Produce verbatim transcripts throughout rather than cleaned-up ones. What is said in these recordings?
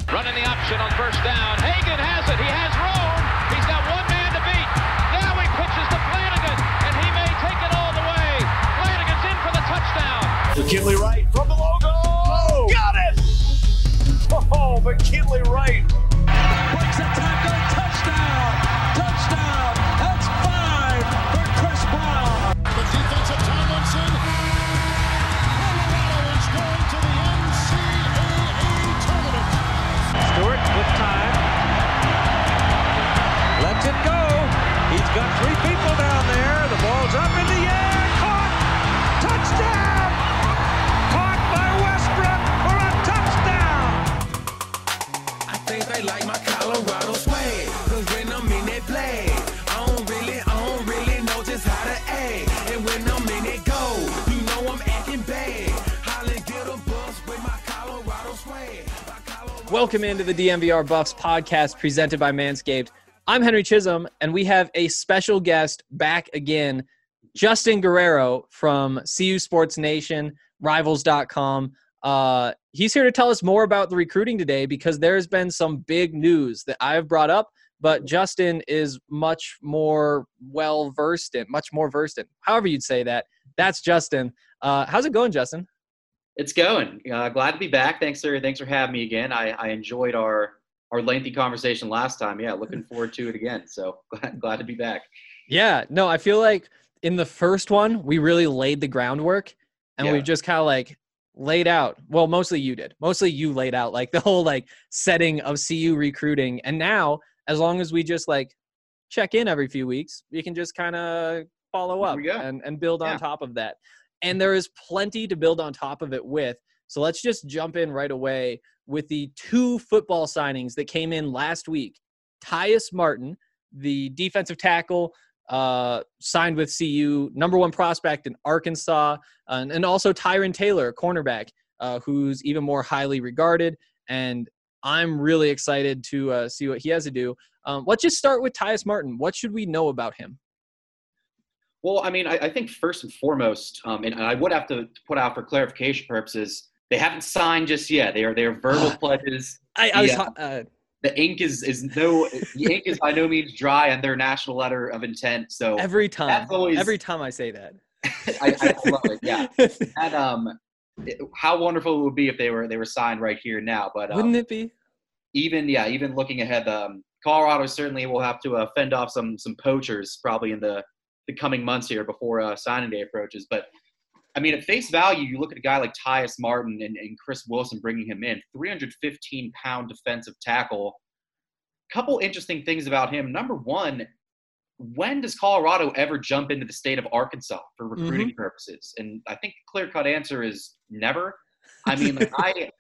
Running the option on first down. Hagan has it. He has room. He's got one man to beat. Now he pitches to Flanagan, and he may take it all the way. Flanagan's in for the touchdown. McKinley Wright from the logo. Oh, got it! Oh, McKinley Wright. Breaks a tackle. Touchdown. Touchdown. That's five for Chris Brown. The defensive Tomlinson. Colorado is going to the N C double A tournament. Stewart with time. Lets it go. He's got three people down there. The ball's up in the air. Caught. Touchdown. Caught by Westbrook for a touchdown. I think they like my Colorado swag. Cause when I'm in that play, I don't really, I don't really know just how to act. And when I'm in it go, you know I'm acting bad. Holly get a bus with my Colorado swag. My Colorado Welcome into the D M V R Buffs podcast presented by Manscaped. I'm Henry Chisholm, and we have a special guest back again, Justin Guerrero from C U Sports Nation, Rivals dot com. Uh, he's here to tell us more about the recruiting today because there's been some big news that I've brought up, but Justin is much more well-versed in, much more versed in, however you'd say that. That's Justin. Uh, how's it going, Justin? It's going. Uh, glad to be back. Thanks for thanks for having me again. I, I enjoyed our our lengthy conversation last time. Yeah, looking forward to it again. So glad, glad to be back. Yeah, no, I feel like in the first one, we really laid the groundwork and Yeah. we've just kind of like laid out. Well, mostly you did. Mostly you laid out like the whole like setting of C U recruiting. And now, as long as we just like check in every few weeks, we can just kind of follow There up we go. and, and build on Yeah. top of that. And there is plenty to build on top of it with. So let's just jump in right away with the two football signings that came in last week. Tyus Martin, the defensive tackle, uh, signed with C U, number one prospect in Arkansas, and, and also Tyron Taylor, a cornerback, uh, who's even more highly regarded. And I'm really excited to uh, see what he has to do. Um, let's just start with Tyus Martin. What should we know about him? Well, I mean, I, I think first and foremost, um, and I would have to put out for clarification purposes, they haven't signed just yet. They are they are verbal pledges. I, I was Yeah. uh, The ink is is no the ink is by no means dry on their national letter of intent. So every time, that's always- every time I say that. I, I love it. Yeah, and um, it- how wonderful it would be if they were they were signed right here now. But um, Wouldn't it be? even yeah, even looking ahead, um, Colorado certainly will have to uh, fend off some some poachers probably in the, the coming months here before uh, signing day approaches. But I mean, at face value, you look at a guy like Tyus Martin and, and Chris Wilson bringing him in, three hundred fifteen pound defensive tackle. Couple interesting things about him. Number one, when does Colorado ever jump into the state of Arkansas for recruiting purposes? And I think the clear-cut answer is never. I mean, like I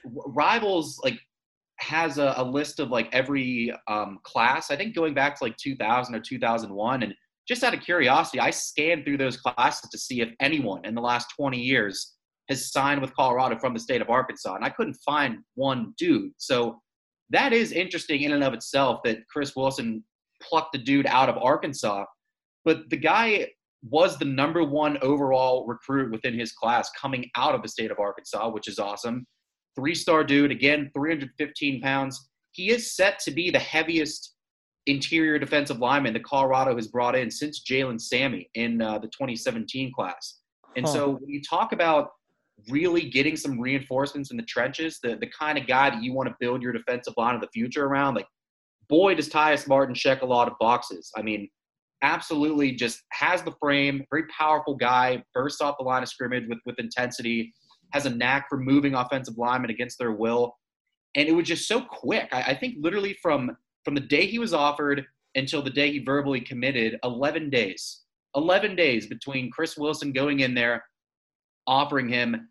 Rivals like has a, a list of like every um, class. I think going back to like two thousand or two thousand one, and just out of curiosity, I scanned through those classes to see if anyone in the last twenty years has signed with Colorado from the state of Arkansas, and I couldn't find one dude. So that is interesting in and of itself that Chris Wilson plucked the dude out of Arkansas. But the guy was the number one overall recruit within his class coming out of the state of Arkansas, which is awesome. Three-star dude, again, three hundred fifteen pounds. He is set to be the heaviest interior defensive lineman that Colorado has brought in since Jalen Sammy in uh, the twenty seventeen class. And Huh. so when you talk about really getting some reinforcements in the trenches, the, the kind of guy that you want to build your defensive line of the future around, like, boy, does Tyus Martin check a lot of boxes. I mean, absolutely just has the frame, very powerful guy, bursts off the line of scrimmage with, with intensity, has a knack for moving offensive linemen against their will. And it was just so quick. I, I think literally from from the day he was offered until the day he verbally committed, eleven days. eleven days between Chris Wilson going in there, offering him,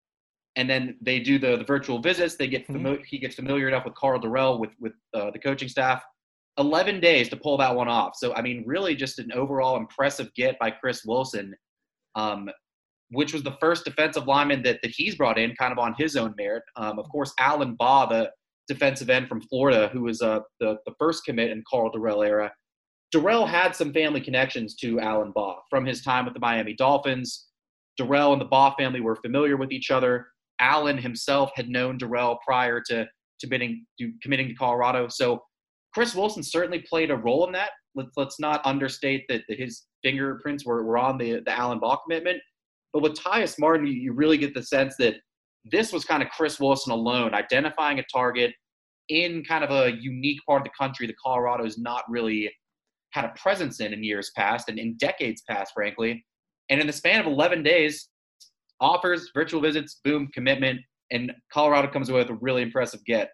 and then they do the, the virtual visits. They get fami- he gets familiar enough with Carl Durrell, with, with uh, the coaching staff. eleven days to pull that one off. So, I mean, really just an overall impressive get by Chris Wilson, um, which was the first defensive lineman that, that he's brought in kind of on his own merit. Um, of course, Alan Baugh, the defensive end from Florida, who was uh, the, the first commit in Carl Durrell era. Durrell had some family connections to Alan Baugh from his time with the Miami Dolphins. Durrell and the Baugh family were familiar with each other. Alan himself had known Durrell prior to committing to committing to Colorado. So Chris Wilson certainly played a role in that. Let's let's not understate that, that his fingerprints were, were on the the Alan Ball commitment. But with Tyus Martin, you, you really get the sense that this was kind of Chris Wilson alone, identifying a target in kind of a unique part of the country that Colorado's not really had a presence in in years past and in decades past, frankly. And in the span of eleven days, offers, virtual visits, boom, commitment, and Colorado comes away with a really impressive get.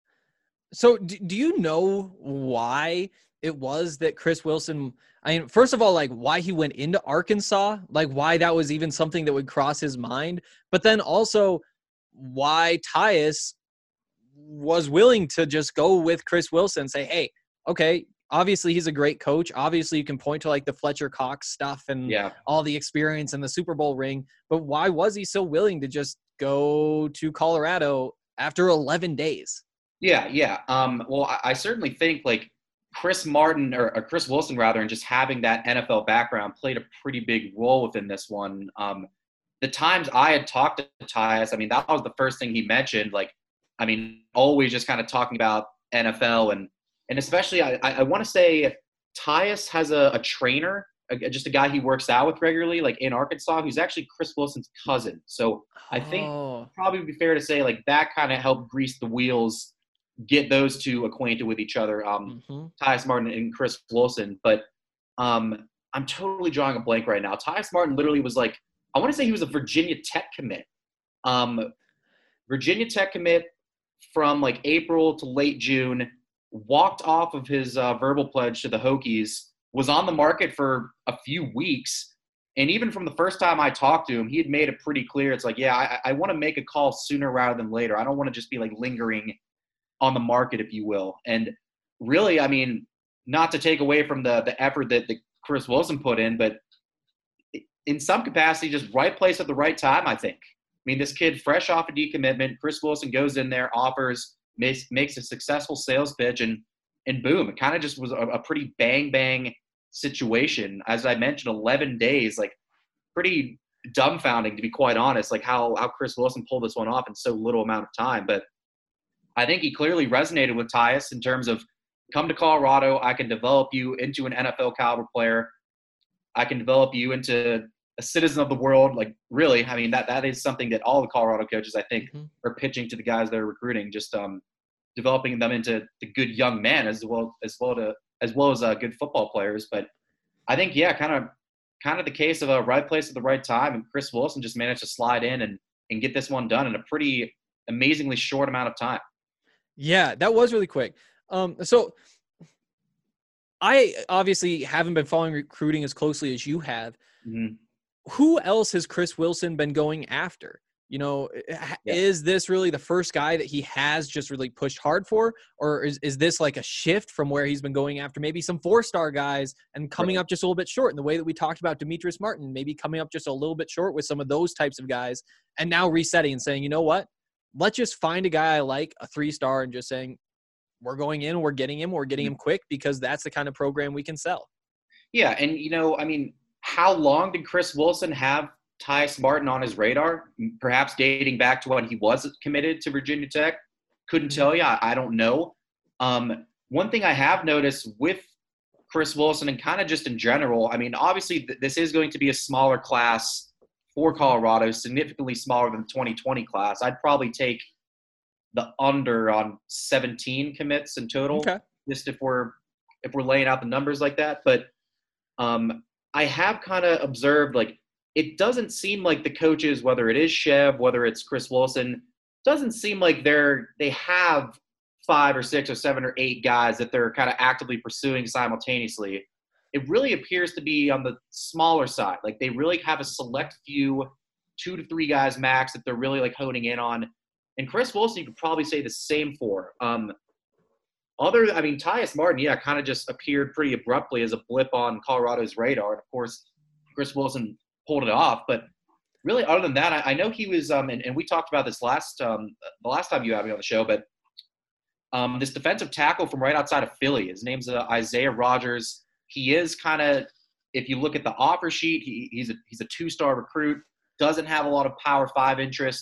So do, do you know why it was that Chris Wilson, I mean, first of all, like why he went into Arkansas, like why that was even something that would cross his mind, but then also why Tyus was willing to just go with Chris Wilson and say, hey, okay, obviously he's a great coach. Obviously you can point to like the Fletcher Cox stuff and yeah. all the experience and the Super Bowl ring, but why was he so willing to just go to Colorado after eleven days? Yeah, yeah. Um, well, I, I certainly think like Chris Martin or, or Chris Wilson rather, and just having that N F L background played a pretty big role within this one. Um, the times I had talked to Tyus, I mean, that was the first thing he mentioned. Like, I mean, always just kind of talking about N F L and and especially I, I want to say Tyus has a, a trainer, a, just a guy he works out with regularly, like in Arkansas, who's actually Chris Wilson's cousin. So I think oh. probably would be fair to say like that kind of helped grease the wheels, get those two acquainted with each other, um, mm-hmm. Tyus Martin and Chris Wilson. But um, I'm totally drawing a blank right now. Tyus Martin literally was like, I want to say he was a Virginia Tech commit. Um, Virginia Tech commit from like April to late June, walked off of his uh, verbal pledge to the Hokies, was on the market for a few weeks. And even from the first time I talked to him, he had made it pretty clear. It's like, yeah, I, I want to make a call sooner rather than later. I don't want to just be like lingering on the market, if you will. And really, I mean, not to take away from the the effort that, that Chris Wilson put in, but in some capacity, just right place at the right time, I think. I mean, this kid fresh off a decommitment, Chris Wilson goes in there, offers, makes, makes a successful sales pitch, and and boom, it kind of just was a, a pretty bang-bang situation. As I mentioned, eleven days, like pretty dumbfounding, to be quite honest, like how, how Chris Wilson pulled this one off in so little amount of time. But I think he clearly resonated with Tyus in terms of come to Colorado, I can develop you into an N F L caliber player. I can develop you into a citizen of the world. Like really, I mean, that, that is something that all the Colorado coaches, I think, mm-hmm. are pitching to the guys they're recruiting, just um, developing them into the good young men as well as well to as well as uh, good football players. But I think, yeah, kind of kind of the case of a right place at the right time. And Chris Wilson just managed to slide in and, and get this one done in a pretty amazingly short amount of time. Yeah, that was really quick. Um, so I obviously haven't been following recruiting as closely as you have. Mm-hmm. Who else has Chris Wilson been going after? You know, yeah. Is this really the first guy that he has just really pushed hard for? Or is, is this like a shift from where he's been going after maybe some four-star guys and coming right. up just a little bit short in the way that we talked about Demetrius Martin, maybe coming up just a little bit short with some of those types of guys and now resetting and saying, you know what? Let's just find a guy I like, a three-star, and just saying, we're going in, we're getting him, we're getting him quick because that's the kind of program we can sell. Yeah, and, you know, I mean, how long did Chris Wilson have Tyus Martin on his radar? Perhaps dating back to when he was committed to Virginia Tech. Couldn't tell you. I, I don't know. Um, one thing I have noticed with Chris Wilson and kind of just in general, I mean, obviously th- this is going to be a smaller class for Colorado, significantly smaller than the twenty twenty class. I'd probably take the under on seventeen commits in total, okay. just if we're if we're laying out the numbers like that. But um, I have kind of observed, like, it doesn't seem like the coaches, whether it is Chev, whether it's Chris Wilson, doesn't seem like they're they have five or six or seven or eight guys that they're kind of actively pursuing simultaneously. It really appears to be on the smaller side. Like they really have a select few, two to three guys max that they're really like honing in on. And Chris Wilson, you could probably say the same for. Um, other, I mean, Tyus Martin, yeah, kind of just appeared pretty abruptly as a blip on Colorado's radar. And of course, Chris Wilson pulled it off. But really, other than that, I, I know he was, um, and, and we talked about this last, um, the last time you had me on the show, but um, this defensive tackle from right outside of Philly, his name's uh, Isaiah Rogers. He is kind of, if you look at the offer sheet, he, he's a he's a two-star recruit, doesn't have a lot of Power Five interest,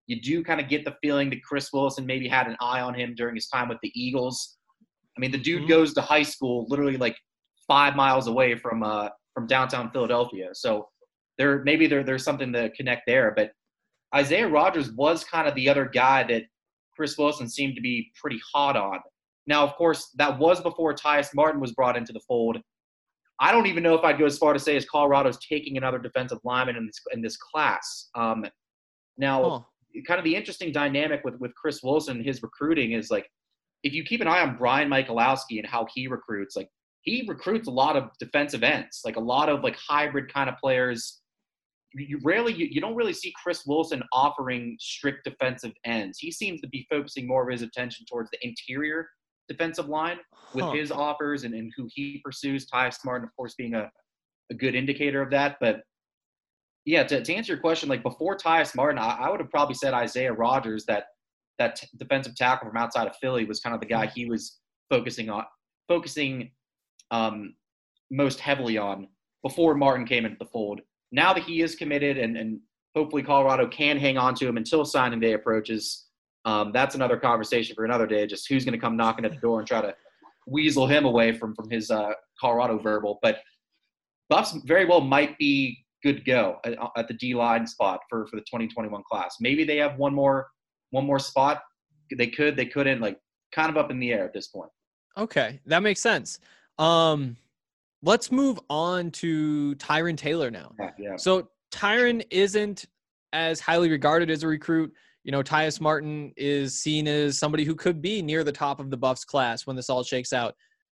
You do kind of get the feeling that Chris Wilson maybe had an eye on him during his time with the Eagles. I mean, the dude mm-hmm. goes to high school literally like five miles away from uh, from downtown Philadelphia. So there maybe there there's something to connect there. But Isaiah Rodgers was kind of the other guy that Chris Wilson seemed to be pretty hot on. Now, of course, that was before Tyus Martin was brought into the fold. I don't even know if I'd go as far to say as Colorado's taking another defensive lineman in this in this class. Um, now, huh. kind of the interesting dynamic with, with Chris Wilson and his recruiting is, like, if you keep an eye on Brian Michalowski and how he recruits, like, he recruits a lot of defensive ends, like a lot of, like, hybrid kind of players. You rarely, you, you don't really see Chris Wilson offering strict defensive ends. He seems to be focusing more of his attention towards the interior defensive line with huh. his offers and, and who he pursues. Tyus Martin, of course, being a, a good indicator of that. But yeah, to, to answer your question, like before Tyus Martin, I, I would have probably said Isaiah Rodgers, that that t- defensive tackle from outside of Philly, was kind of the guy he was focusing on, focusing um, most heavily on before Martin came into the fold. Now that he is committed and, and hopefully Colorado can hang on to him until signing day approaches, um, that's another conversation for another day, just who's going to come knocking at the door and try to weasel him away from, from his uh, Colorado verbal. But Buffs very well might be good to go at, at the D-line spot for, for the twenty twenty-one class. Maybe they have one more one more spot. They could, they couldn't, like kind of up in the air at this point. Okay, that makes sense. Um Let's move on to Tyron Taylor now. Yeah, yeah. So Tyron isn't as highly regarded as a recruit. You know, Tyus Martin is seen as somebody who could be near the top of the Buffs class when this all shakes out.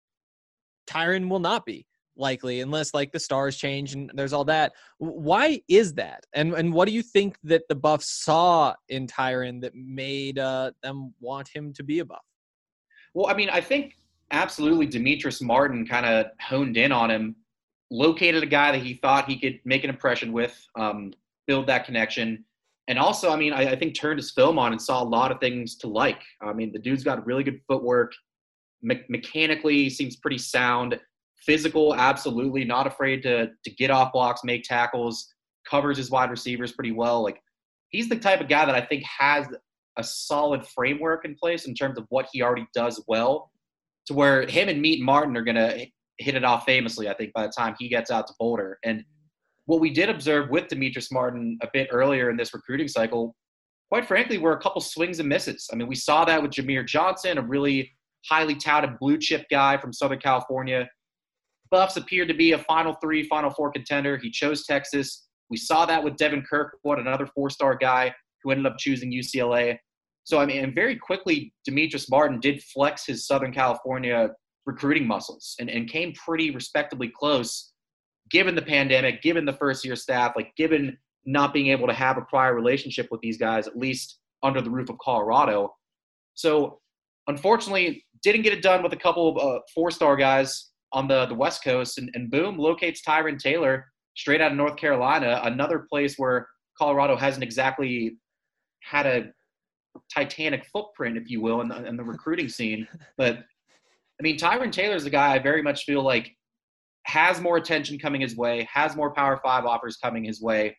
Tyron will not be, likely, unless like the stars change and there's all that. Why is that? And and what do you think that the Buffs saw in Tyron that made uh, them want him to be a Buff? Well, I mean, I think absolutely Demetrius Martin kind of honed in on him, located a guy that he thought he could make an impression with, um, build that connection. And also, I mean, I, I think turned his film on and saw a lot of things to like. I mean, the dude's got really good footwork, me- mechanically seems pretty sound, physical, absolutely, not afraid to to get off blocks, make tackles, covers his wide receivers pretty well. Like, he's the type of guy that I think has a solid framework in place in terms of what he already does well, to where him and Meat Martin are going to hit it off famously, I think, by the time he gets out to Boulder. And what we did observe with Demetrius Martin a bit earlier in this recruiting cycle, quite frankly, were a couple swings and misses. I mean, we saw that with Jameer Johnson, a really highly touted blue chip guy from Southern California. Buffs appeared to be a Final Three, Final Four contender. He chose Texas. We saw that with Devin Kirkwood, another four-star guy who ended up choosing U C L A. So, I mean, and very quickly, Demetrius Martin did flex his Southern California recruiting muscles and, and came pretty respectably close, given the pandemic, given the first-year staff, like given not being able to have a prior relationship with these guys, at least under the roof of Colorado. So, unfortunately, didn't get it done with a couple of uh, four-star guys on the, the West Coast, and, and boom, locates Tyron Taylor straight out of North Carolina, another place where Colorado hasn't exactly had a titanic footprint, if you will, in the, in the recruiting scene. But, I mean, Tyron Taylor is a guy I very much feel like has more attention coming his way, has more Power Five offers coming his way.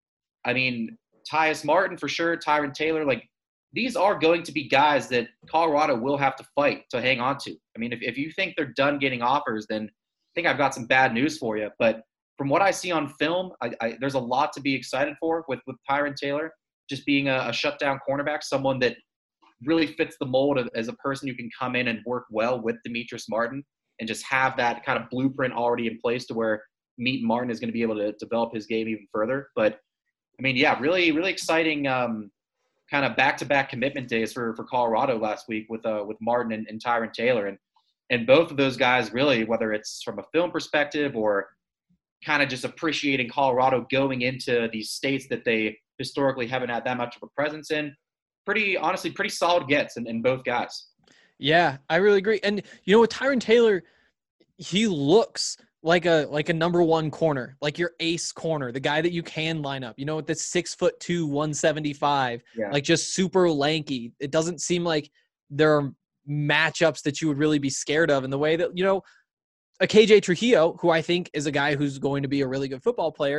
I mean, Tyus Martin for sure, Tyron Taylor, like, these are going to be guys that Colorado will have to fight to hang on to. I mean, if, if you think they're done getting offers, then I think I've got some bad news for you. But from what I see on film, I, I, there's a lot to be excited for with, with Tyron Taylor, just being a, a shutdown cornerback, someone that really fits the mold of, as a person who can come in and work well with Demetrius Martin and just have that kind of blueprint already in place to where Meat Martin is going to be able to develop his game even further. But, I mean, yeah, really, really exciting um, kind of back-to-back commitment days for, for Colorado last week with uh, with Martin and, and Tyron Taylor. And, and both of those guys really, whether it's from a film perspective or kind of just appreciating Colorado going into these states that they historically haven't had that much of a presence in, pretty, honestly, pretty solid gets in, in both guys. Yeah, I really agree. And, you know, with Tyron Taylor, he looks like a like a number one corner, like your ace corner, the guy that you can line up, you know, with the six foot two, one seventy-five, yeah. like just super lanky. It doesn't seem like there are matchups that you would really be scared of in the way that, you know, a K J Trujillo, who I think is a guy who's going to be a really good football player,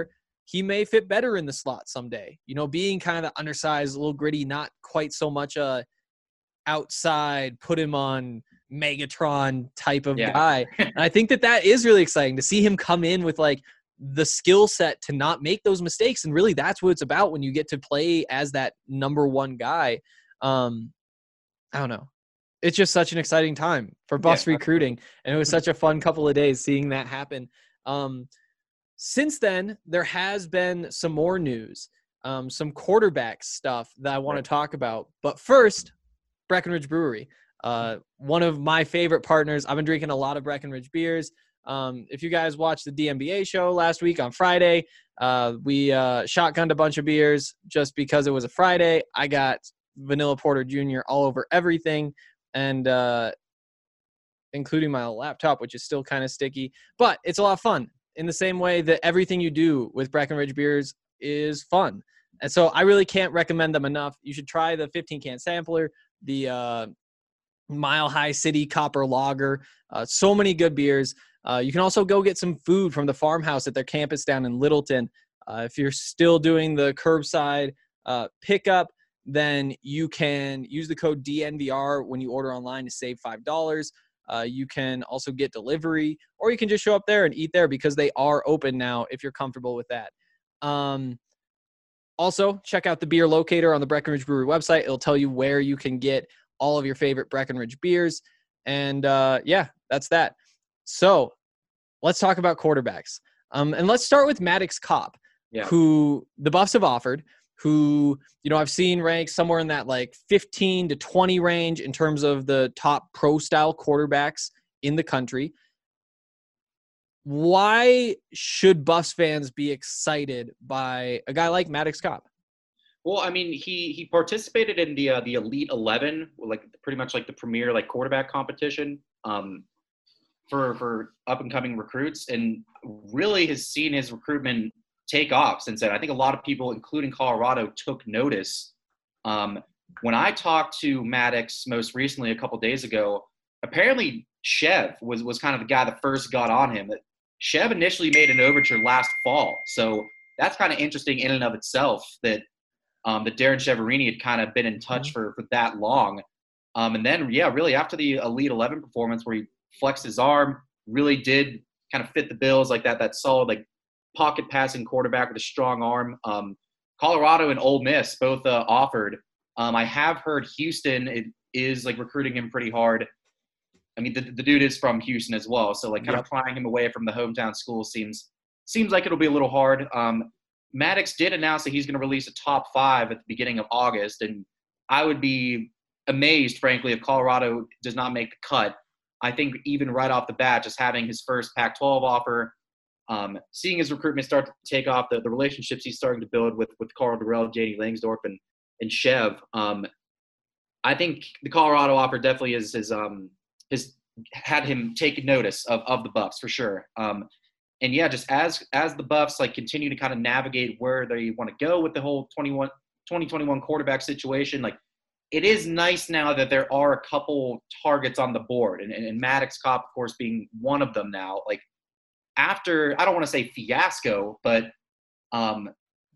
he may fit better in the slot someday. You know, being kind of undersized, a little gritty, not quite so much a outside, put him on Megatron type of Yeah. guy. And I think that that is really exciting to see him come in with like the skill set to not make those mistakes. And really that's what it's about when you get to play as that number one guy. Um, I don't know. It's just such an exciting time for Buffs Yeah, recruiting. And it was such a fun couple of days seeing that happen. Um, since then, there has been some more news, um, some quarterback stuff that I want Right. to talk about. But first, Breckenridge Brewery, uh, one of my favorite partners. I've been drinking a lot of Breckenridge beers. Um, if you guys watched the D M B A show last week on Friday, uh, we uh, shotgunned a bunch of beers just because it was a Friday. I got Vanilla Porter Junior all over everything, and uh, including my laptop, which is still kind of sticky. But it's a lot of fun in the same way that everything you do with Breckenridge beers is fun. And so I really can't recommend them enough. You should try the fifteen can sampler, the uh, Mile High City Copper Lager. Uh, so many good beers. Uh, you can also go get some food from the farmhouse at their campus down in Littleton. Uh, if you're still doing the curbside uh, pickup, then you can use the code D N V R when you order online to save five dollars. Uh, you can also get delivery, or you can just show up there and eat there because they are open now if you're comfortable with that. Um, also, check out the beer locator on the Breckenridge Brewery website. It'll tell you where you can get all of your favorite Breckenridge beers. And uh, yeah, that's that. So let's talk about quarterbacks. Um, and let's start with Maddox Kopp, Yeah. who the Buffs have offered, who, you know, I've seen ranked somewhere in that like fifteen to twenty range in terms of the top pro style quarterbacks in the country. Why should Buffs fans be excited by a guy like Maddox Kopp? Well, I mean, he he participated in the uh, the Elite eleven, like pretty much like the premier like quarterback competition um, for for up and coming recruits, and really has seen his recruitment take off since then. I think a lot of people, including Colorado, took notice. Um, when I talked to Maddox most recently a couple days ago, apparently Chev was was kind of the guy that first got on him. Chev initially made an overture last fall, so that's kind of interesting in and of itself that. Um, that Darren Cheverini had kind of been in touch for, for that long. Um, and then, yeah, really after the Elite eleven performance where he flexed his arm, really did kind of fit the bills like that, that solid, like pocket passing quarterback with a strong arm. Um, Colorado and Ole Miss both uh, offered. Um, I have heard Houston it is like recruiting him pretty hard. I mean, the, the dude is from Houston as well. So like kind Yep. of prying him away from the hometown school seems, seems like it'll be a little hard. Um, Maddox did announce that he's going to release a top five at the beginning of August, and I would be amazed, frankly, if Colorado does not make the cut. I think even right off the bat, just having his first Pac twelve offer, um, seeing his recruitment start to take off, the, the relationships he's starting to build with with Carl Durrell, J D Langsdorf, and and Chev, um, I think the Colorado offer definitely is is um, has had him take notice of of the Buffs for sure. Um, And yeah, just as as the Buffs like continue to kind of navigate where they want to go with the whole twenty-one, twenty twenty-one quarterback situation, like it is nice now that there are a couple targets on the board, and, and, and Maddox Kopp, of course, being one of them now. Like after, I don't want to say fiasco, but um,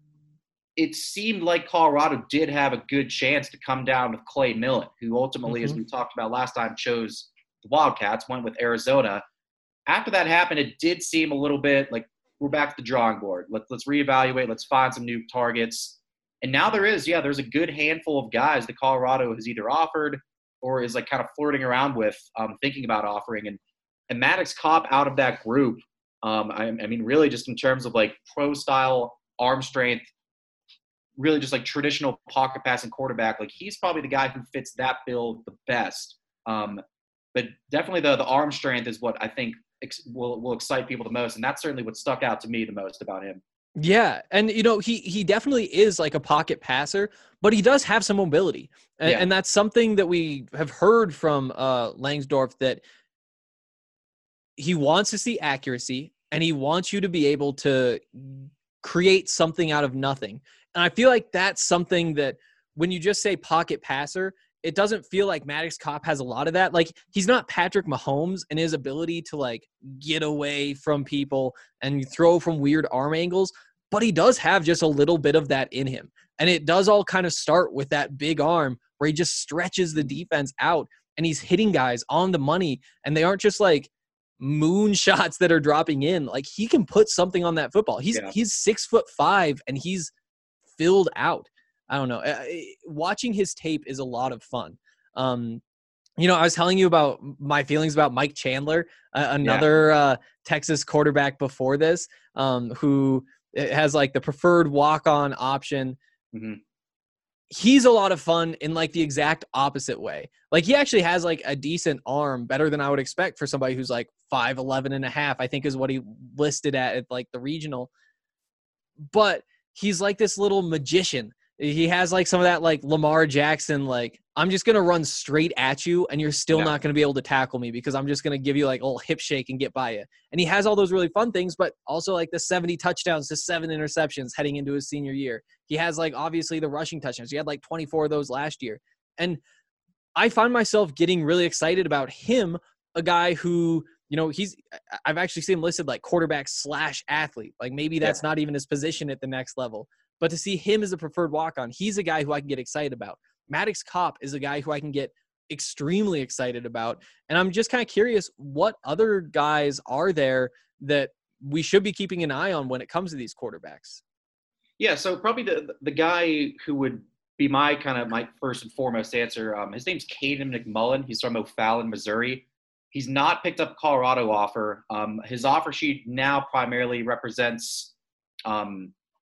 it seemed like Colorado did have a good chance to come down with Clay Millen, who ultimately, Mm-hmm. as we talked about last time, chose the Wildcats, went with Arizona. After that happened, it did seem a little bit like we're back to the drawing board. Let's let's reevaluate. Let's find some new targets. And now there is, yeah, there's a good handful of guys that Colorado has either offered or is like kind of flirting around with, um, thinking about offering. And and Maddox Kopp out of that group, um, I, I mean, really just in terms of like pro style arm strength, really just like traditional pocket passing quarterback, like he's probably the guy who fits that bill the best. Um, but definitely the the arm strength is what I think ex- will will excite people the most, and that's certainly what stuck out to me the most about him. Yeah, and you know he he definitely is like a pocket passer, but he does have some mobility, and, Yeah. and that's something that we have heard from uh, Langsdorf, that he wants to see accuracy and he wants you to be able to create something out of nothing. And I feel like that's something that when you just say pocket passer, it doesn't feel like Maddox Kopp has a lot of that. Like he's not Patrick Mahomes in his ability to like get away from people and throw from weird arm angles, but he does have just a little bit of that in him. And it does all kind of start with that big arm where he just stretches the defense out and he's hitting guys on the money, and they aren't just like moon shots that are dropping in. Like, he can put something on that football. He's Yeah. he's six foot five and he's filled out. I don't know. Uh, Watching his tape is a lot of fun. Um, you know, I was telling you about my feelings about Mike Chandler, uh, another uh, Texas quarterback before this, um, who has like the preferred walk-on option. Mm-hmm. He's a lot of fun in like the exact opposite way. Like, he actually has like a decent arm, better than I would expect for somebody who's like five eleven and a half, I think is what he listed at, at like the regional. But he's like this little magician. He has like some of that like Lamar Jackson, like, I'm just going to run straight at you and you're still Yeah. not going to be able to tackle me because I'm just going to give you like a little hip shake and get by you. And he has all those really fun things, but also like the seventy touchdowns to seven interceptions heading into his senior year. He has like obviously the rushing touchdowns. He had like twenty-four of those last year. And I find myself getting really excited about him, a guy who, you know, he's, I've actually seen him listed like quarterback slash athlete. Like, maybe that's Yeah. not even his position at the next level. But to see him as a preferred walk-on, he's a guy who I can get excited about. Maddox Kopp is a guy who I can get extremely excited about. And I'm just kind of curious, what other guys are there that we should be keeping an eye on when it comes to these quarterbacks? Yeah, so probably the the guy who would be my kind of my first and foremost answer. Um, his name's Caden McMullen. He's from O'Fallon, Missouri. He's not picked up a Colorado offer. Um, his offer sheet now primarily represents um,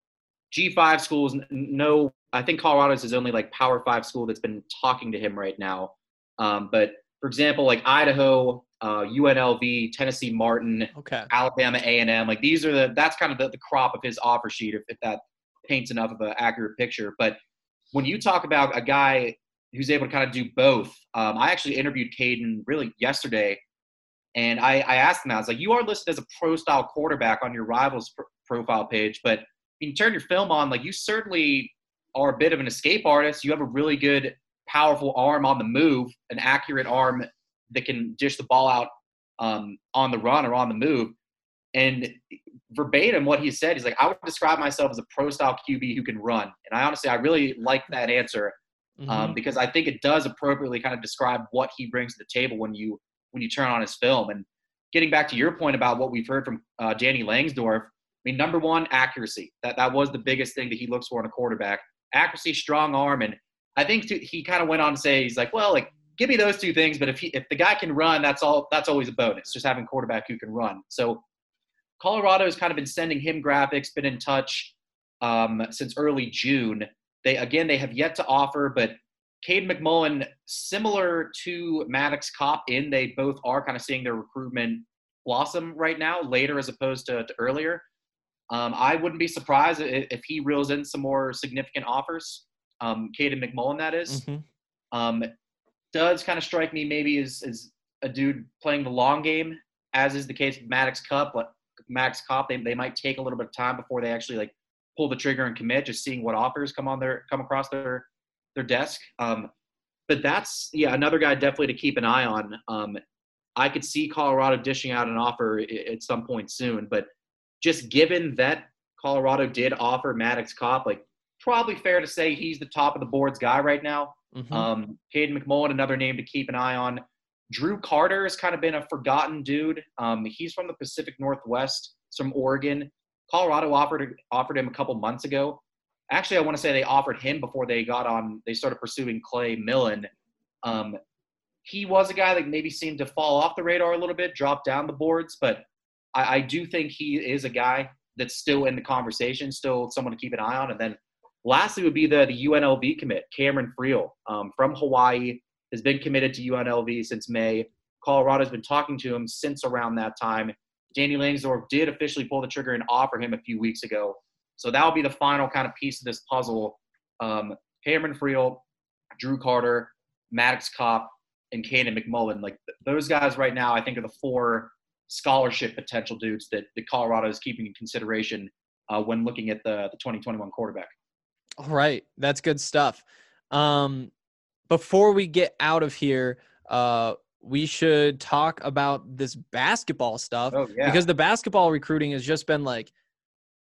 G five schools. No, I think Colorado's his only like Power Five school that's been talking to him right now. Um, but for example, like Idaho, uh, U N L V, Tennessee Martin, Okay. Alabama A and M, like these are the that's kind of the, the crop of his offer sheet, if, if that paints enough of an accurate picture. But when you talk about a guy who's able to kind of do both, um, I actually interviewed Caden really yesterday, and I, I asked him, I was like, you are listed as a pro-style quarterback on your Rivals pr- profile page, but you turn your film on, like, you certainly are a bit of an escape artist. You have a really good, powerful arm on the move, an accurate arm that can dish the ball out um, on the run or on the move. And verbatim what he said, he's like, I would describe myself as a pro-style Q B who can run. And I honestly, I really like that answer um, Mhm. because I think it does appropriately kind of describe what he brings to the table when you when you turn on his film. And getting back to your point about what we've heard from uh, Danny Langsdorf, I mean, number one, accuracy. That that was the biggest thing that he looks for in a quarterback. Accuracy, strong arm. And I think to, he kind of went on to say, he's like, well, like, give me those two things, but if he, if the guy can run, that's all. That's always a bonus, just having a quarterback who can run. So Colorado has kind of been sending him graphics, been in touch um, since early June. They again, they have yet to offer, but Cade McMullen, similar to Maddox Kopp, in they both are kind of seeing their recruitment blossom right now, later as opposed to, to earlier. Um, I wouldn't be surprised if, if he reels in some more significant offers. Um, Caden McMullen, that is. Mhm. Um, does kind of strike me maybe as, as a dude playing the long game, as is the case with Maddox Kopp. But Maddox Kopp, they, they might take a little bit of time before they actually like pull the trigger and commit, just seeing what offers come on their come across their their desk. Um, but that's yeah another guy definitely to keep an eye on. Um, I could see Colorado dishing out an offer at some point soon, but just given that Colorado did offer Maddox Kopp, like probably fair to say he's the top of the board's guy right now. Mhm. Um, Caden McMullen, another name to keep an eye on. Drew Carter has kind of been a forgotten dude. Um, he's from the Pacific Northwest. He's from Oregon. Colorado offered offered him a couple months ago. Actually, I want to say they offered him before they got on. They started pursuing Clay Millen. Um, he was a guy that maybe seemed to fall off the radar a little bit, drop down the boards, but I, I do think he is a guy that's still in the conversation, still someone to keep an eye on. And then lastly would be the, the U N L V commit, Cameron Friel um, from Hawaii, has been committed to U N L V since May. Colorado's been talking to him since around that time. Danny Langsdorf did officially pull the trigger and offer him a few weeks ago. So that will be the final kind of piece of this puzzle. Um, Cameron Friel, Drew Carter, Maddox Kopp, and Caden McMullen. Like th- those guys right now, I think, are the four scholarship potential dudes that, that Colorado is keeping in consideration uh, when looking at the, the twenty twenty-one quarterback. All right. That's good stuff. Um, before we get out of here, uh, we should talk about this basketball stuff Oh, yeah. because the basketball recruiting has just been like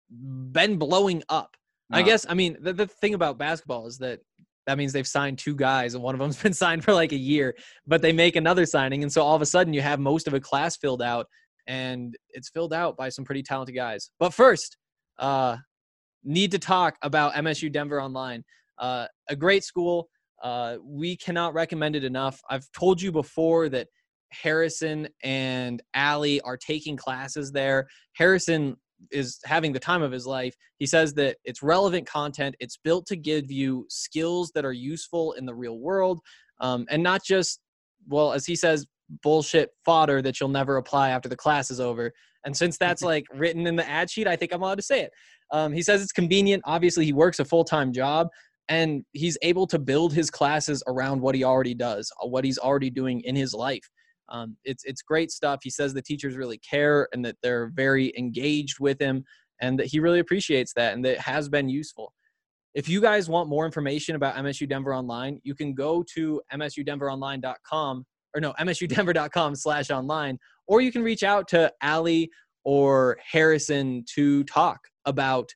been blowing up. No. I guess, I mean, the, the thing about basketball is that that means they've signed two guys and one of them's been signed for like a year, but they make another signing. And so all of a sudden you have most of a class filled out, and it's filled out by some pretty talented guys. But first, uh, need to talk about M S U Denver Online. Uh, a great school. Uh, we cannot recommend it enough. I've told you before that Harrison and Allie are taking classes there. Harrison is having the time of his life. He says that it's relevant content. It's built to give you skills that are useful in the real world, um, and not just, well, as he says, bullshit fodder that you'll never apply after the class is over. And since that's like written in the ad sheet, I think I'm allowed to say it. Um, he says it's convenient. Obviously, he works a full-time job, and he's able to build his classes around what he already does, what he's already doing in his life. Um, it's it's great stuff. He says the teachers really care and that they're very engaged with him, and that he really appreciates that, and that it has been useful. If you guys want more information about M S U Denver Online, you can go to M S U Denver Online dot com, or no, M S U Denver dot com slash online, or you can reach out to Allie or Harrison to talk about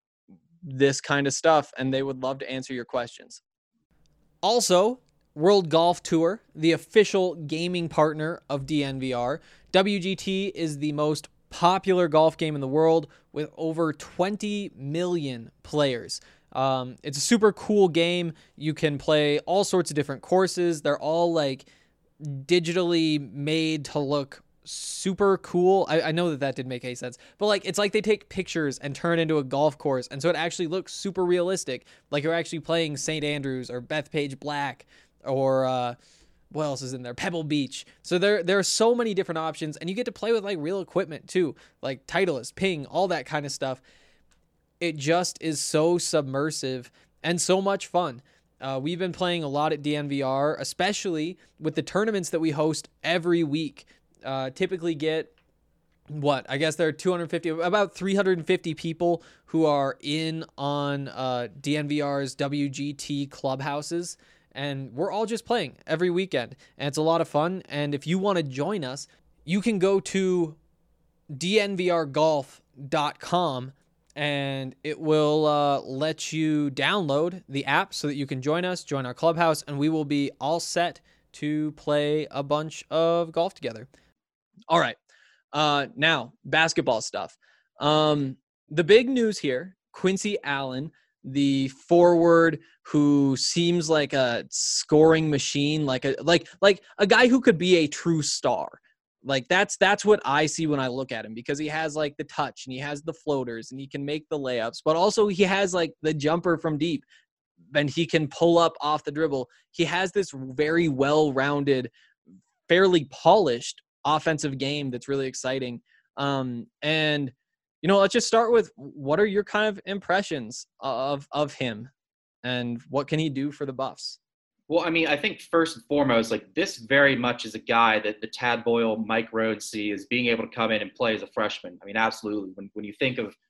this kind of stuff, and they would love to answer your questions. Also, World Golf Tour, the official gaming partner of D N V R. W G T is the most popular golf game in the world with over twenty million players. Um, it's a super cool game. You can play all sorts of different courses. They're all like digitally made to look super cool. I, I know that that didn't make any sense, but like it's like they take pictures and turn it into a golf course, and so it actually looks super realistic, like you're actually playing Saint Andrews or Bethpage Black or uh, what else is in there? Pebble Beach. So there there are so many different options, and you get to play with like real equipment too, like Titleist, Ping, all that kind of stuff. It just is so submersive and so much fun. Uh, we've been playing a lot at D N V R, especially with the tournaments that we host every week. Uh, typically get, what, I guess there are two hundred fifty, about three hundred fifty people who are in on uh, D N V R's W G T clubhouses, and we're all just playing every weekend, and it's a lot of fun. And if you want to join us, you can go to D N V R golf dot com, and it will uh, let you download the app so that you can join us, join our clubhouse, and we will be all set to play a bunch of golf together. All right. Uh, now, basketball stuff. Um, the big news here, Quincy Allen, the forward who seems like a scoring machine, like a like like a guy who could be a true star. Like that's that's what I see when I look at him, because he has like the touch and he has the floaters and he can make the layups, but also he has like the jumper from deep and he can pull up off the dribble. He has this very well-rounded, fairly polished offensive game that's really exciting. Um, and, you know, let's just start with, what are your kind of impressions of, of him and what can he do for the Buffs? Well, I mean, I think first and foremost, like this very much is a guy that the Tad Boyle, Mike Rhodes see as being able to come in and play as a freshman. I mean, absolutely. When when you think of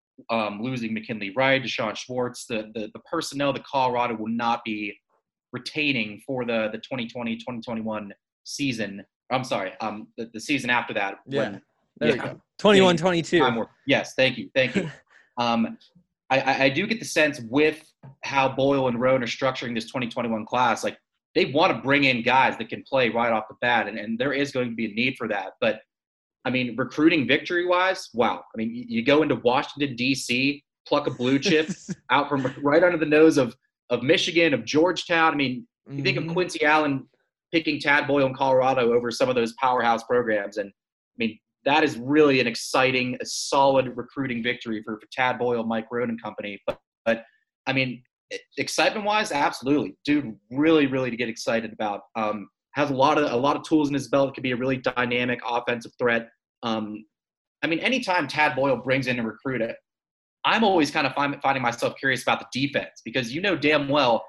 um, losing McKinley Wright, Deshaun Schwartz, the, the the personnel that Colorado will not be retaining for the the twenty twenty twenty twenty-one season. I'm sorry, um, the, the season after that. Yeah, when, there yeah, you go. twenty-one twenty-two. Yes, thank you, thank you. um, I, I do get the sense with how Boyle and Roan are structuring this twenty twenty-one class, like they want to bring in guys that can play right off the bat, and, and there is going to be a need for that. But, I mean, recruiting victory-wise, wow. I mean, you, you go into Washington, D C, pluck a blue chip out from right under the nose of, of Michigan, of Georgetown. I mean, you mm-hmm. think of Quincy Allen picking Tad Boyle in Colorado over some of those powerhouse programs, and, I mean, that is really an exciting, a solid recruiting victory for, for Tad Boyle, Mike Roan and company. But, but I mean, excitement-wise, absolutely, dude. Really, really to get excited about. Um, has a lot of a lot of tools in his belt. Could be a really dynamic offensive threat. Um, I mean, anytime Tad Boyle brings in a recruit, I'm always kind of find, finding myself curious about the defense, because you know damn well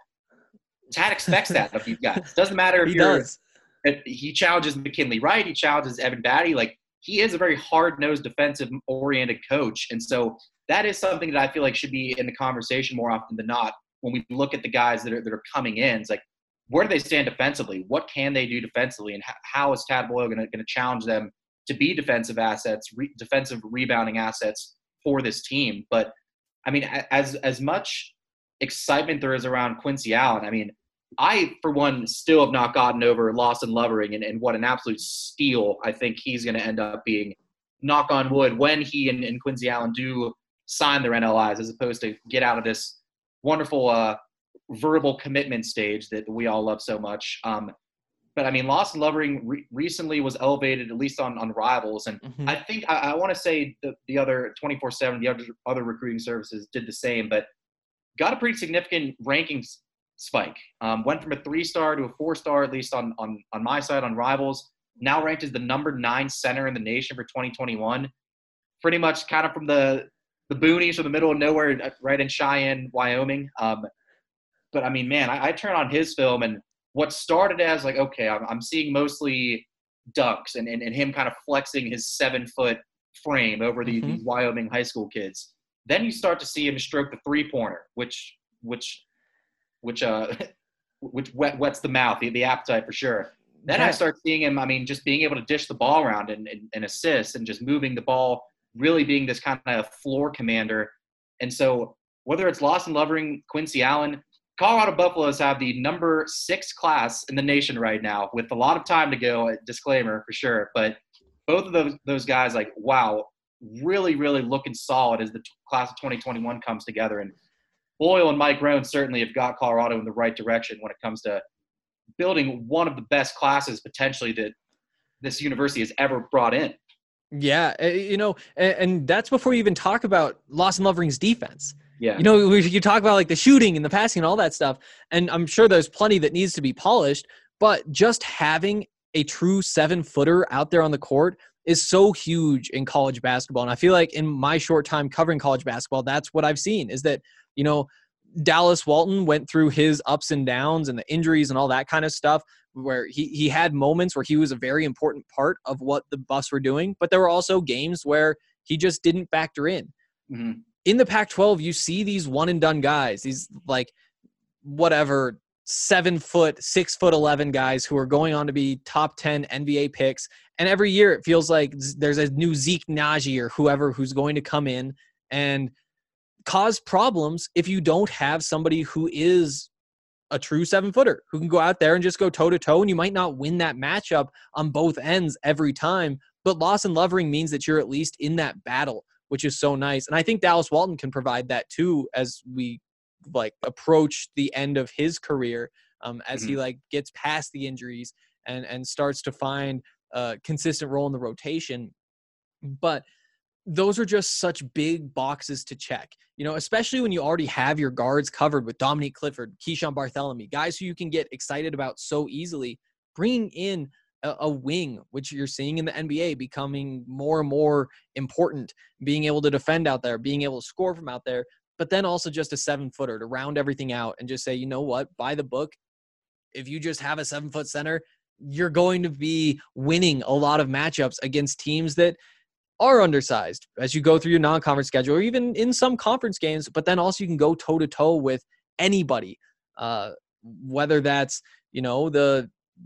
Tad expects that of you guys. Doesn't matter if he you're. Does. If he challenges McKinley Wright. He challenges Evan Batty. Like, he is a very hard-nosed, defensive-oriented coach. And so that is something that I feel like should be in the conversation more often than not when we look at the guys that are that are coming in. It's like, where do they stand defensively? What can they do defensively? And how is Tad Boyle going to challenge them to be defensive assets, re- defensive rebounding assets for this team. But I mean, as as much excitement there is around Quincy Allen, I mean, I, for one, still have not gotten over Lawson Lovering and, and what an absolute steal I think he's going to end up being, knock on wood, when he and, and Quincy Allen do sign their N L Is, as opposed to get out of this wonderful uh, verbal commitment stage that we all love so much. Um, but, I mean, Lawson Lovering re- recently was elevated, at least on, on Rivals. And Mm-hmm. I think I, I want to say the, the other twenty-four seven, the other, other recruiting services did the same, but got a pretty significant rankings spike. Um, went from a three-star to a four-star, at least on, on, on my side, on Rivals. Now ranked as the number nine center in the nation for twenty twenty-one. Pretty much kind of from the, the boonies or the middle of nowhere, right in Cheyenne, Wyoming. Um, but, I mean, man, I, I turn on his film, and what started as, like, okay, I'm, I'm seeing mostly dunks and, and, and him kind of flexing his seven-foot frame over the, Mm-hmm. these Wyoming high school kids. Then you start to see him stroke the three-pointer, which which – which uh, which wet, wets the mouth, the, the appetite for sure. Then Yeah. I start seeing him, I mean, just being able to dish the ball around and, and, and assist and just moving the ball, really being this kind of floor commander. And so whether it's Lawson Lovering, Quincy Allen, Colorado Buffaloes have the number six class in the nation right now with a lot of time to go, disclaimer for sure. But both of those, those guys, like, wow, really, really looking solid as the t- class of twenty twenty-one comes together. And Boyle and Mike Rohn certainly have got Colorado in the right direction when it comes to building one of the best classes potentially that this university has ever brought in. Yeah, uh, you know, and, and that's before you even talk about Lawson Lovering's defense. Yeah. You know, we, you talk about like the shooting and the passing and all that stuff, and I'm sure there's plenty that needs to be polished, but just having a true seven-footer out there on the court is so huge in college basketball. And I feel like in my short time covering college basketball, that's what I've seen is that, you know, Dallas Walton went through his ups and downs and the injuries and all that kind of stuff where he, he had moments where he was a very important part of what the Buffs were doing, but there were also games where he just didn't factor in. Mm-hmm. In the Pac twelve, you see these one and done guys, these like whatever seven foot, six foot eleven guys who are going on to be top ten N B A picks. And every year it feels like there's a new Zeke Naji or whoever who's going to come in and cause problems if you don't have somebody who is a true seven footer who can go out there and just go toe to toe. And you might not win that matchup on both ends every time, but Lawson Lovering means that you're at least in that battle, which is so nice. And I think Dallas Walton can provide that too, as we like approach the end of his career, um, as Mm-hmm. he like gets past the injuries and, and starts to find a consistent role in the rotation. But those are just such big boxes to check, you know, especially when you already have your guards covered with Dominique Clifford, Keyshawn Bartholomew, guys who you can get excited about so easily. Bringing in a, a wing, which you're seeing in the N B A becoming more and more important, being able to defend out there, being able to score from out there, but then also just a seven footer to round everything out and just say, you know what, by the book, if you just have a seven foot center, you're going to be winning a lot of matchups against teams that are undersized as you go through your non-conference schedule or even in some conference games, but then also you can go toe to toe with anybody, uh, whether that's, you know, the,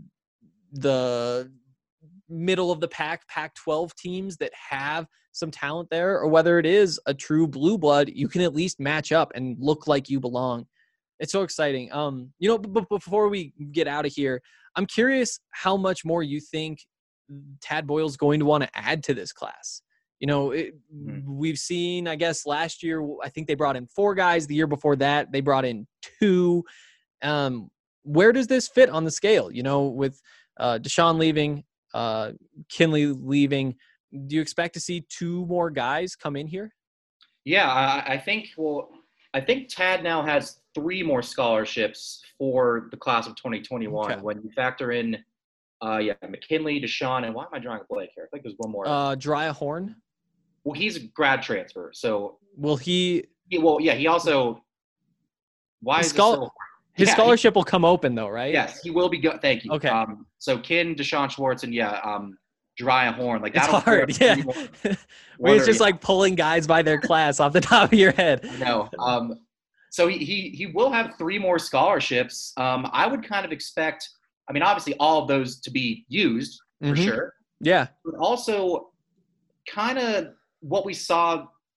the middle of the pack, Pac twelve teams that have some talent there, or whether it is a true blue blood, you can at least match up and look like you belong. It's so exciting. Um, you know, but before we get out of here, I'm curious how much more you think Tad Boyle's going to want to add to this class. You know, it, Mm-hmm. we've seen, I guess last year, I think they brought in four guys. The year before that, they brought in two. Um, where does this fit on the scale? You know, with uh, Deshaun leaving, uh, Kinley leaving, do you expect to see two more guys come in here? Yeah, I, I think, well, I think Tad now has three more scholarships for the class of twenty twenty-one. Okay. When you factor in, uh, yeah, McKinley, Deshaun, and why am I drawing a blank here? I think there's one more. Uh, Drya Horn, well, he's a grad transfer, so will he? he, well, yeah, he also. Why His is schol- it so, His yeah, scholarship will come open though, right? He, yes, he will be good. Thank you. Okay. Um, so Kin, Deshaun Schwartz, and yeah, um, Drya Horn. Like It's that'll hard, clear up yeah. three more- Where Wonder- it's just yeah. like pulling guys by their class off the top of your head. No. Um, so he, he he will have three more scholarships. Um, I would kind of expect, I mean, obviously all of those to be used for Mhm. sure, Yeah. but also kind of what we saw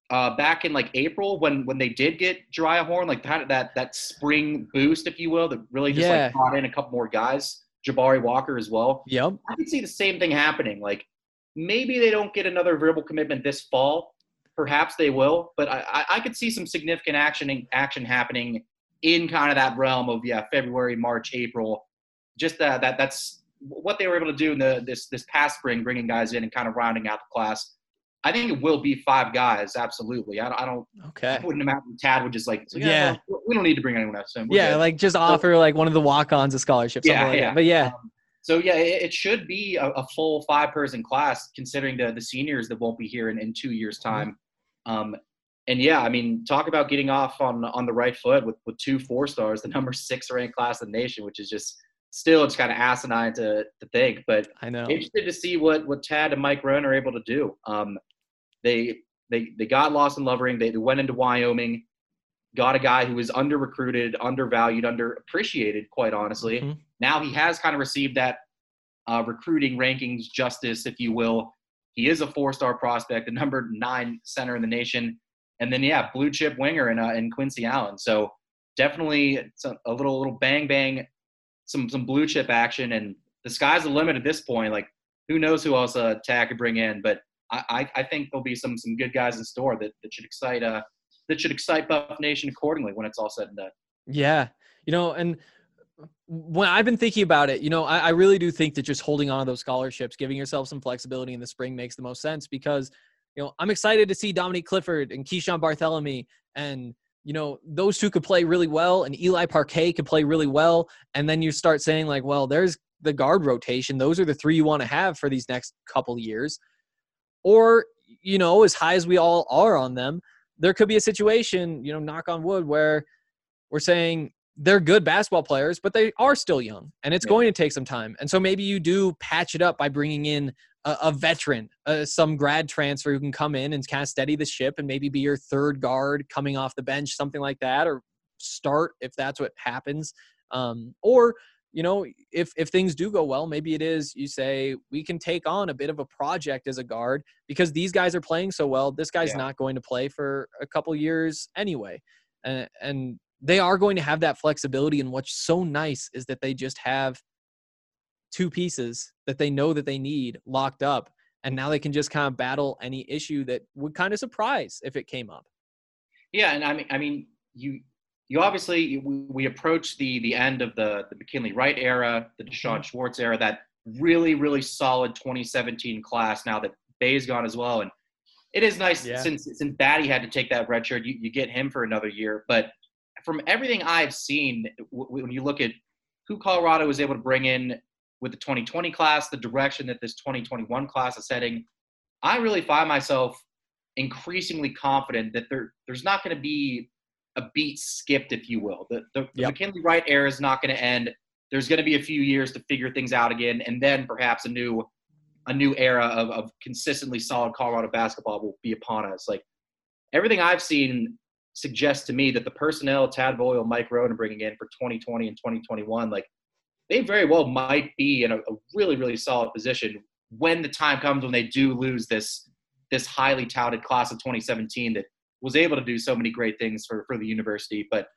uh, back in like April when when they did get Jariah Horn, like that that that spring boost, if you will, that really just Yeah. like brought in a couple more guys, Jabari Walker as well. Yep. I could see the same thing happening. Like maybe they don't get another verbal commitment this fall. Perhaps they will, but I, I, I could see some significant action action happening in kind of that realm of yeah February, March, April. Just that that that's what they were able to do in the this this past spring, bringing guys in and kind of rounding out the class. I think it will be five guys, absolutely. I, I don't. Okay. I wouldn't imagine Tad would just like. Yeah, Yeah. well, we don't need to bring anyone else in. We're Yeah, good. like just offer like one of the walk-ons a scholarship. Something Yeah, like yeah. that. But yeah, Um, so yeah, it, it should be a, a full five-person class, considering the the seniors that won't be here in, in two years' time. Um, and yeah, I mean, talk about getting off on on the right foot with with two four stars, the number six ranked class in the nation, which is just still it's kind of asinine to to think. But I know. interested to see what what Tad and Mike Roan are able to do. Um, they they they got Lawson Lovering. They, they went into Wyoming, got a guy who was under recruited, undervalued, underappreciated, quite honestly. Mhm. Now he has kind of received that uh, recruiting rankings justice, if you will. He is a four-star prospect, the number nine center in the nation, and then yeah, blue chip winger in uh, in Quincy Allen. So definitely it's a, a little little bang bang, some some blue chip action, and the sky's the limit at this point. Like who knows who else uh, Tag could bring in, but I, I I think there'll be some some good guys in store that, that should excite uh that should excite Buff Nation accordingly when it's all said and done. Yeah. You know, and when I've been thinking about it, you know, I, I really do think that just holding on to those scholarships, giving yourself some flexibility in the spring makes the most sense because, you know, I'm excited to see Dominique Clifford and Keyshawn Barthélemy and, you know, those two could play really well and Eli Parquet could play really well. And then you start saying like, well, there's the guard rotation. Those are the three you want to have for these next couple years. Or, you know, as high as we all are on them, there could be a situation, you know, knock on wood, where we're saying they're good basketball players, but they are still young and it's Yeah. going to take some time. And so maybe you do patch it up by bringing in a, a veteran, uh, some grad transfer who can come in and kind of steady the ship and maybe be your third guard coming off the bench, something like that, or start if that's what happens. Um, or, you know, if, if things do go well, maybe it is, you say, we can take on a bit of a project as a guard because these guys are playing so well. This guy's Yeah. not going to play for a couple years anyway. And, and they are going to have that flexibility. And what's so nice is that they just have two pieces that they know that they need locked up. And now they can just kind of battle any issue that would kind of surprise if it came up. Yeah, and I mean, I mean, you you obviously we, we approach the the end of the the McKinley Wright era, the Deshaun Schwartz era, that really really solid twenty seventeen class. Now that Bay's gone as well, and it is nice Yeah. since since Batty had to take that red shirt, you, you get him for another year. But from everything I've seen, w- when you look at who Colorado was able to bring in with the twenty twenty class, the direction that this twenty twenty-one class is heading, I really find myself increasingly confident that there there's not going to be a beat skipped, if you will. The, the, the Yep. McKinley Wright era is not going to end. There's going to be a few years to figure things out again, and then perhaps a new a new era of, of consistently solid Colorado basketball will be upon us. Like everything I've seen suggests to me that the personnel Tad Boyle, Mike Roan are bringing in for twenty twenty and twenty twenty-one, like they very well might be in a, a really, really solid position when the time comes when they do lose this this highly touted class of twenty seventeen that was able to do so many great things for, for the university. But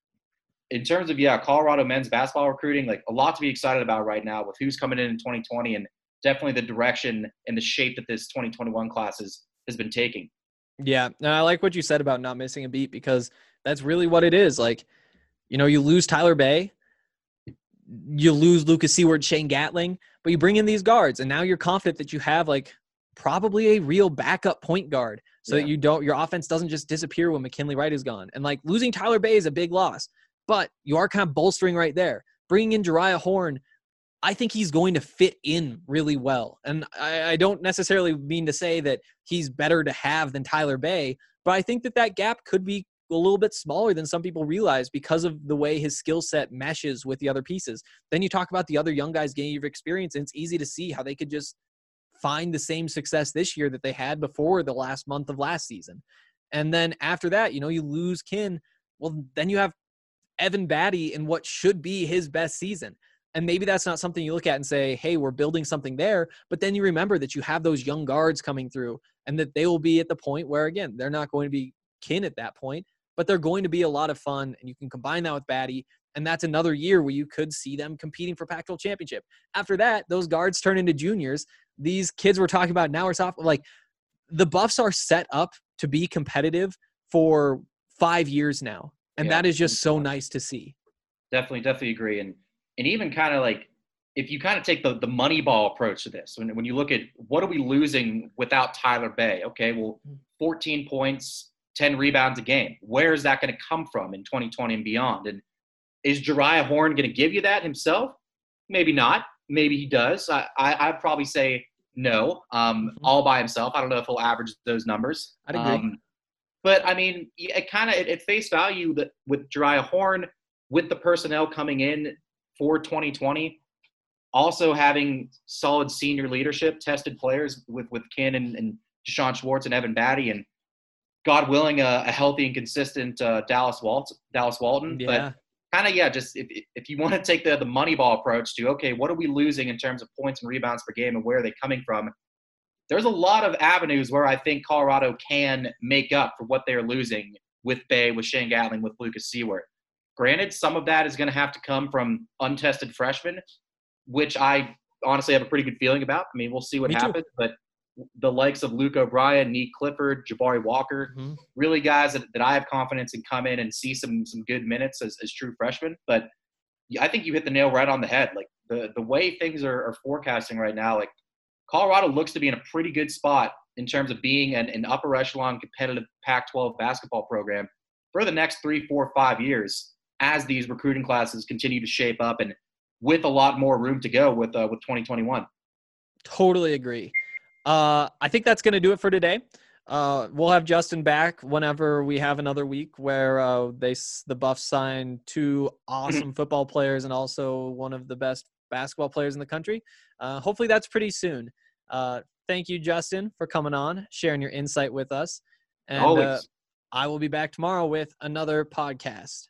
in terms of, yeah, Colorado men's basketball recruiting, like a lot to be excited about right now with who's coming in in twenty twenty and definitely the direction and the shape that this twenty twenty-one class has, has been taking. Yeah. And I like what you said about not missing a beat because that's really what it is. Like, you know, you lose Tyler Bay, you lose Lucas Seward, Shane Gatling, but you bring in these guards and now you're confident that you have like probably a real backup point guard so Yeah. that you don't, your offense doesn't just disappear when McKinley Wright is gone. And like losing Tyler Bay is a big loss, but you are kind of bolstering right there. Bringing in Jariah Horn, I think he's going to fit in really well. And I, I don't necessarily mean to say that he's better to have than Tyler Bay, but I think that that gap could be a little bit smaller than some people realize because of the way his skill set meshes with the other pieces. Then you talk about the other young guys getting your experience, and it's easy to see how they could just find the same success this year that they had before the last month of last season. And then after that, you know, you lose Kin. Well, then you have Evan Batty in what should be his best season. And maybe that's not something you look at and say, hey, we're building something there. But then you remember that you have those young guards coming through and that they will be at the point where, again, they're not going to be kin at that point, but they're going to be a lot of fun. And you can combine that with Batty. And that's another year where you could see them competing for Pac twelve championship. After that, those guards turn into juniors. These kids we're talking about now are soft. Like, the Buffs are set up to be competitive for five years now. And Yeah. that is just so nice to see. Definitely, definitely agree. And and even kind of like, if you kind of take the, the money ball approach to this, when, when you look at what are we losing without Tyler Bay? Okay, well, fourteen points, ten rebounds a game. Where is that going to come from in twenty twenty and beyond? And is Jariah Horn going to give you that himself? Maybe not. Maybe he does. I, I, I'd probably say no, um, Mm-hmm. all by himself. I don't know if he'll average those numbers. I'd agree. Um, but, I mean, it kind of at face value that with Jariah Horn, with the personnel coming in for twenty twenty, also having solid senior leadership, tested players with, with Ken and, and Deshaun Schwartz and Evan Batty, and God willing, a, a healthy and consistent uh, Dallas Walt, Dallas Walton. Yeah. But kind of, yeah, just if if you want to take the, the money ball approach to, okay, what are we losing in terms of points and rebounds per game and where are they coming from? There's a lot of avenues where I think Colorado can make up for what they're losing with Bay, with Shane Gatling, with Lucas Seward. Granted, some of that is going to have to come from untested freshmen, which I honestly have a pretty good feeling about. I mean, we'll see what Me too. happens, but the likes of Luke O'Brien, Nick Clifford, Jabari Walker, Mm-hmm. really guys that, that I have confidence in come in and see some some good minutes as, as true freshmen. But I think you hit the nail right on the head. Like the, the way things are, are forecasting right now, like Colorado looks to be in a pretty good spot in terms of being an, an upper echelon competitive Pac twelve basketball program for the next three, four, five years as these recruiting classes continue to shape up and with a lot more room to go with uh, with twenty twenty-one. Totally agree. Uh, I think that's going to do it for today. Uh, we'll have Justin back whenever we have another week where uh, they s- the Buffs signed two awesome football players and also one of the best basketball players in the country. Uh, hopefully that's pretty soon. Uh, thank you, Justin, for coming on, sharing your insight with us. And uh, Always. I will be back tomorrow with another podcast.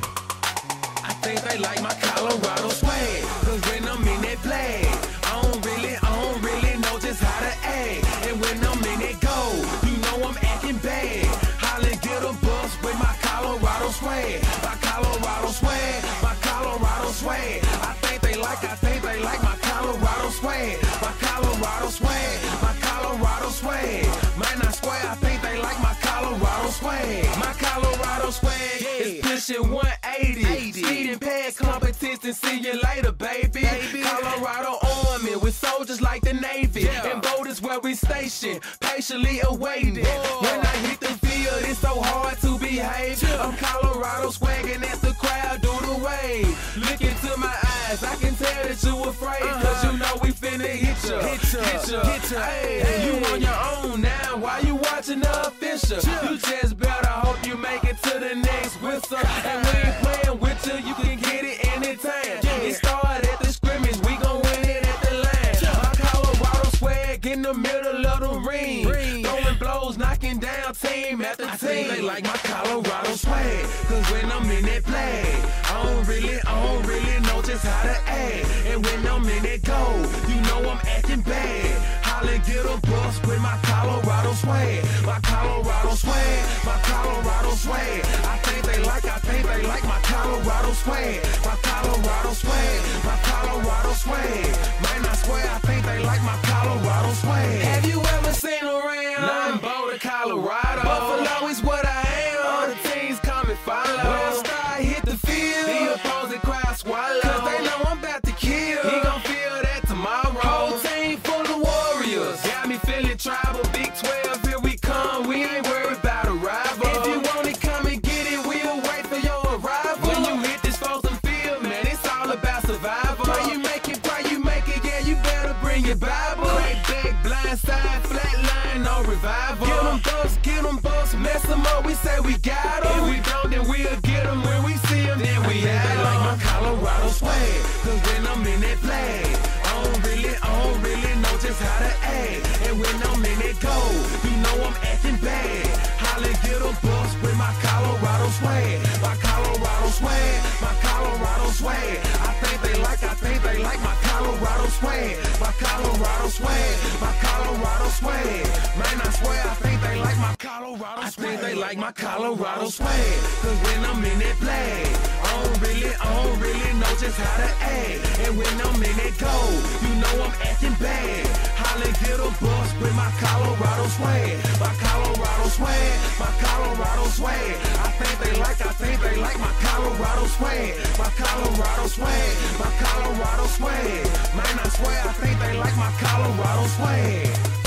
I think they like my Colorado swag, cause when I'm in that play, I don't really, I don't really know just how to act. And when I'm in that go, you know I'm acting bad. Holla, get a bus with my Colorado swag, my Colorado swag, my Colorado swag. I think they like, I think they like my Colorado swag, my Colorado swag, my Colorado swag. Might not swear, I think they like my Colorado swag, my Colorado swag is pushing one eighty. Speed and pad competition, see you later, baby. Colorado Army with soldiers like the Navy. And boat is where we station, patiently awaiting. When I hit the field, it's so hard to behave. I'm Colorado swagging as the crowd do the wave. Look into my eyes, I can tell that you afraid. Cause you know we finna hit ya, hit ya, hit ya, hit ya. Hey, you on your own now, why you watching the official? You just better hope you make it to the next whistle. And we ain't playing with you, you can get it anytime. It started at the scrimmage, we gon' win it at the line. My Colorado swag in the middle of the ring. Throwing blows, knocking down team after team. I think they like my Colorado swag, cause when I'm in that play, I don't really, I don't really know just how to act. And when I'm in that go, you know I'm acting bad. Holla, get a bus with my Colorado swag, my Colorado swag, my Colorado swag. I think they like, I think they like my Colorado swag, my Colorado swag, my Colorado swag. Might not swear, I think they like my Colorado swag. Have you ever seen around? None Boulder, Colorado. Buffalo is what I am. All the teams come and follow. When I start hit the field, the opposing crowd swallow. Cause they know I'm about to kill. He gon' feel that tomorrow. Whole team full of warriors. Got me feeling tribal. Big twelve, here we come. We ain't worried about a rival. If you want it, come and get it. We'll wait for your arrival. When you hit this frozen field, man, it's all about survival. Pray you make it, pray you make it. Yeah, you better bring your Bible. Crack back, blind side, flat line, no revival. Get them bucks, get them bucks, mess them up. We say we got them. If we don't, then we'll get them. When we see them, then we have them. Like my Colorado swag, cause when I'm in that play, I don't really, I don't really know just how to act. And when I'm in that go, you know I'm acting bad. Holla, get a bus with my Colorado swag, my Colorado swag, my Colorado swag. I think they like, I think swag. Man, I swear I think they like my Colorado swag. I think they like my Colorado swag. Cause when I'm in that flag, I don't really, I don't really know just how to act. And when I'm in that goal, you know I'm acting bad. Holla, get a bus with my Colorado swag. My Colorado swag, my Colorado swag. I think they like, I think they like my Colorado swag. My Colorado swag, my Colorado swag. Man, I swear I think they like my Colorado swag.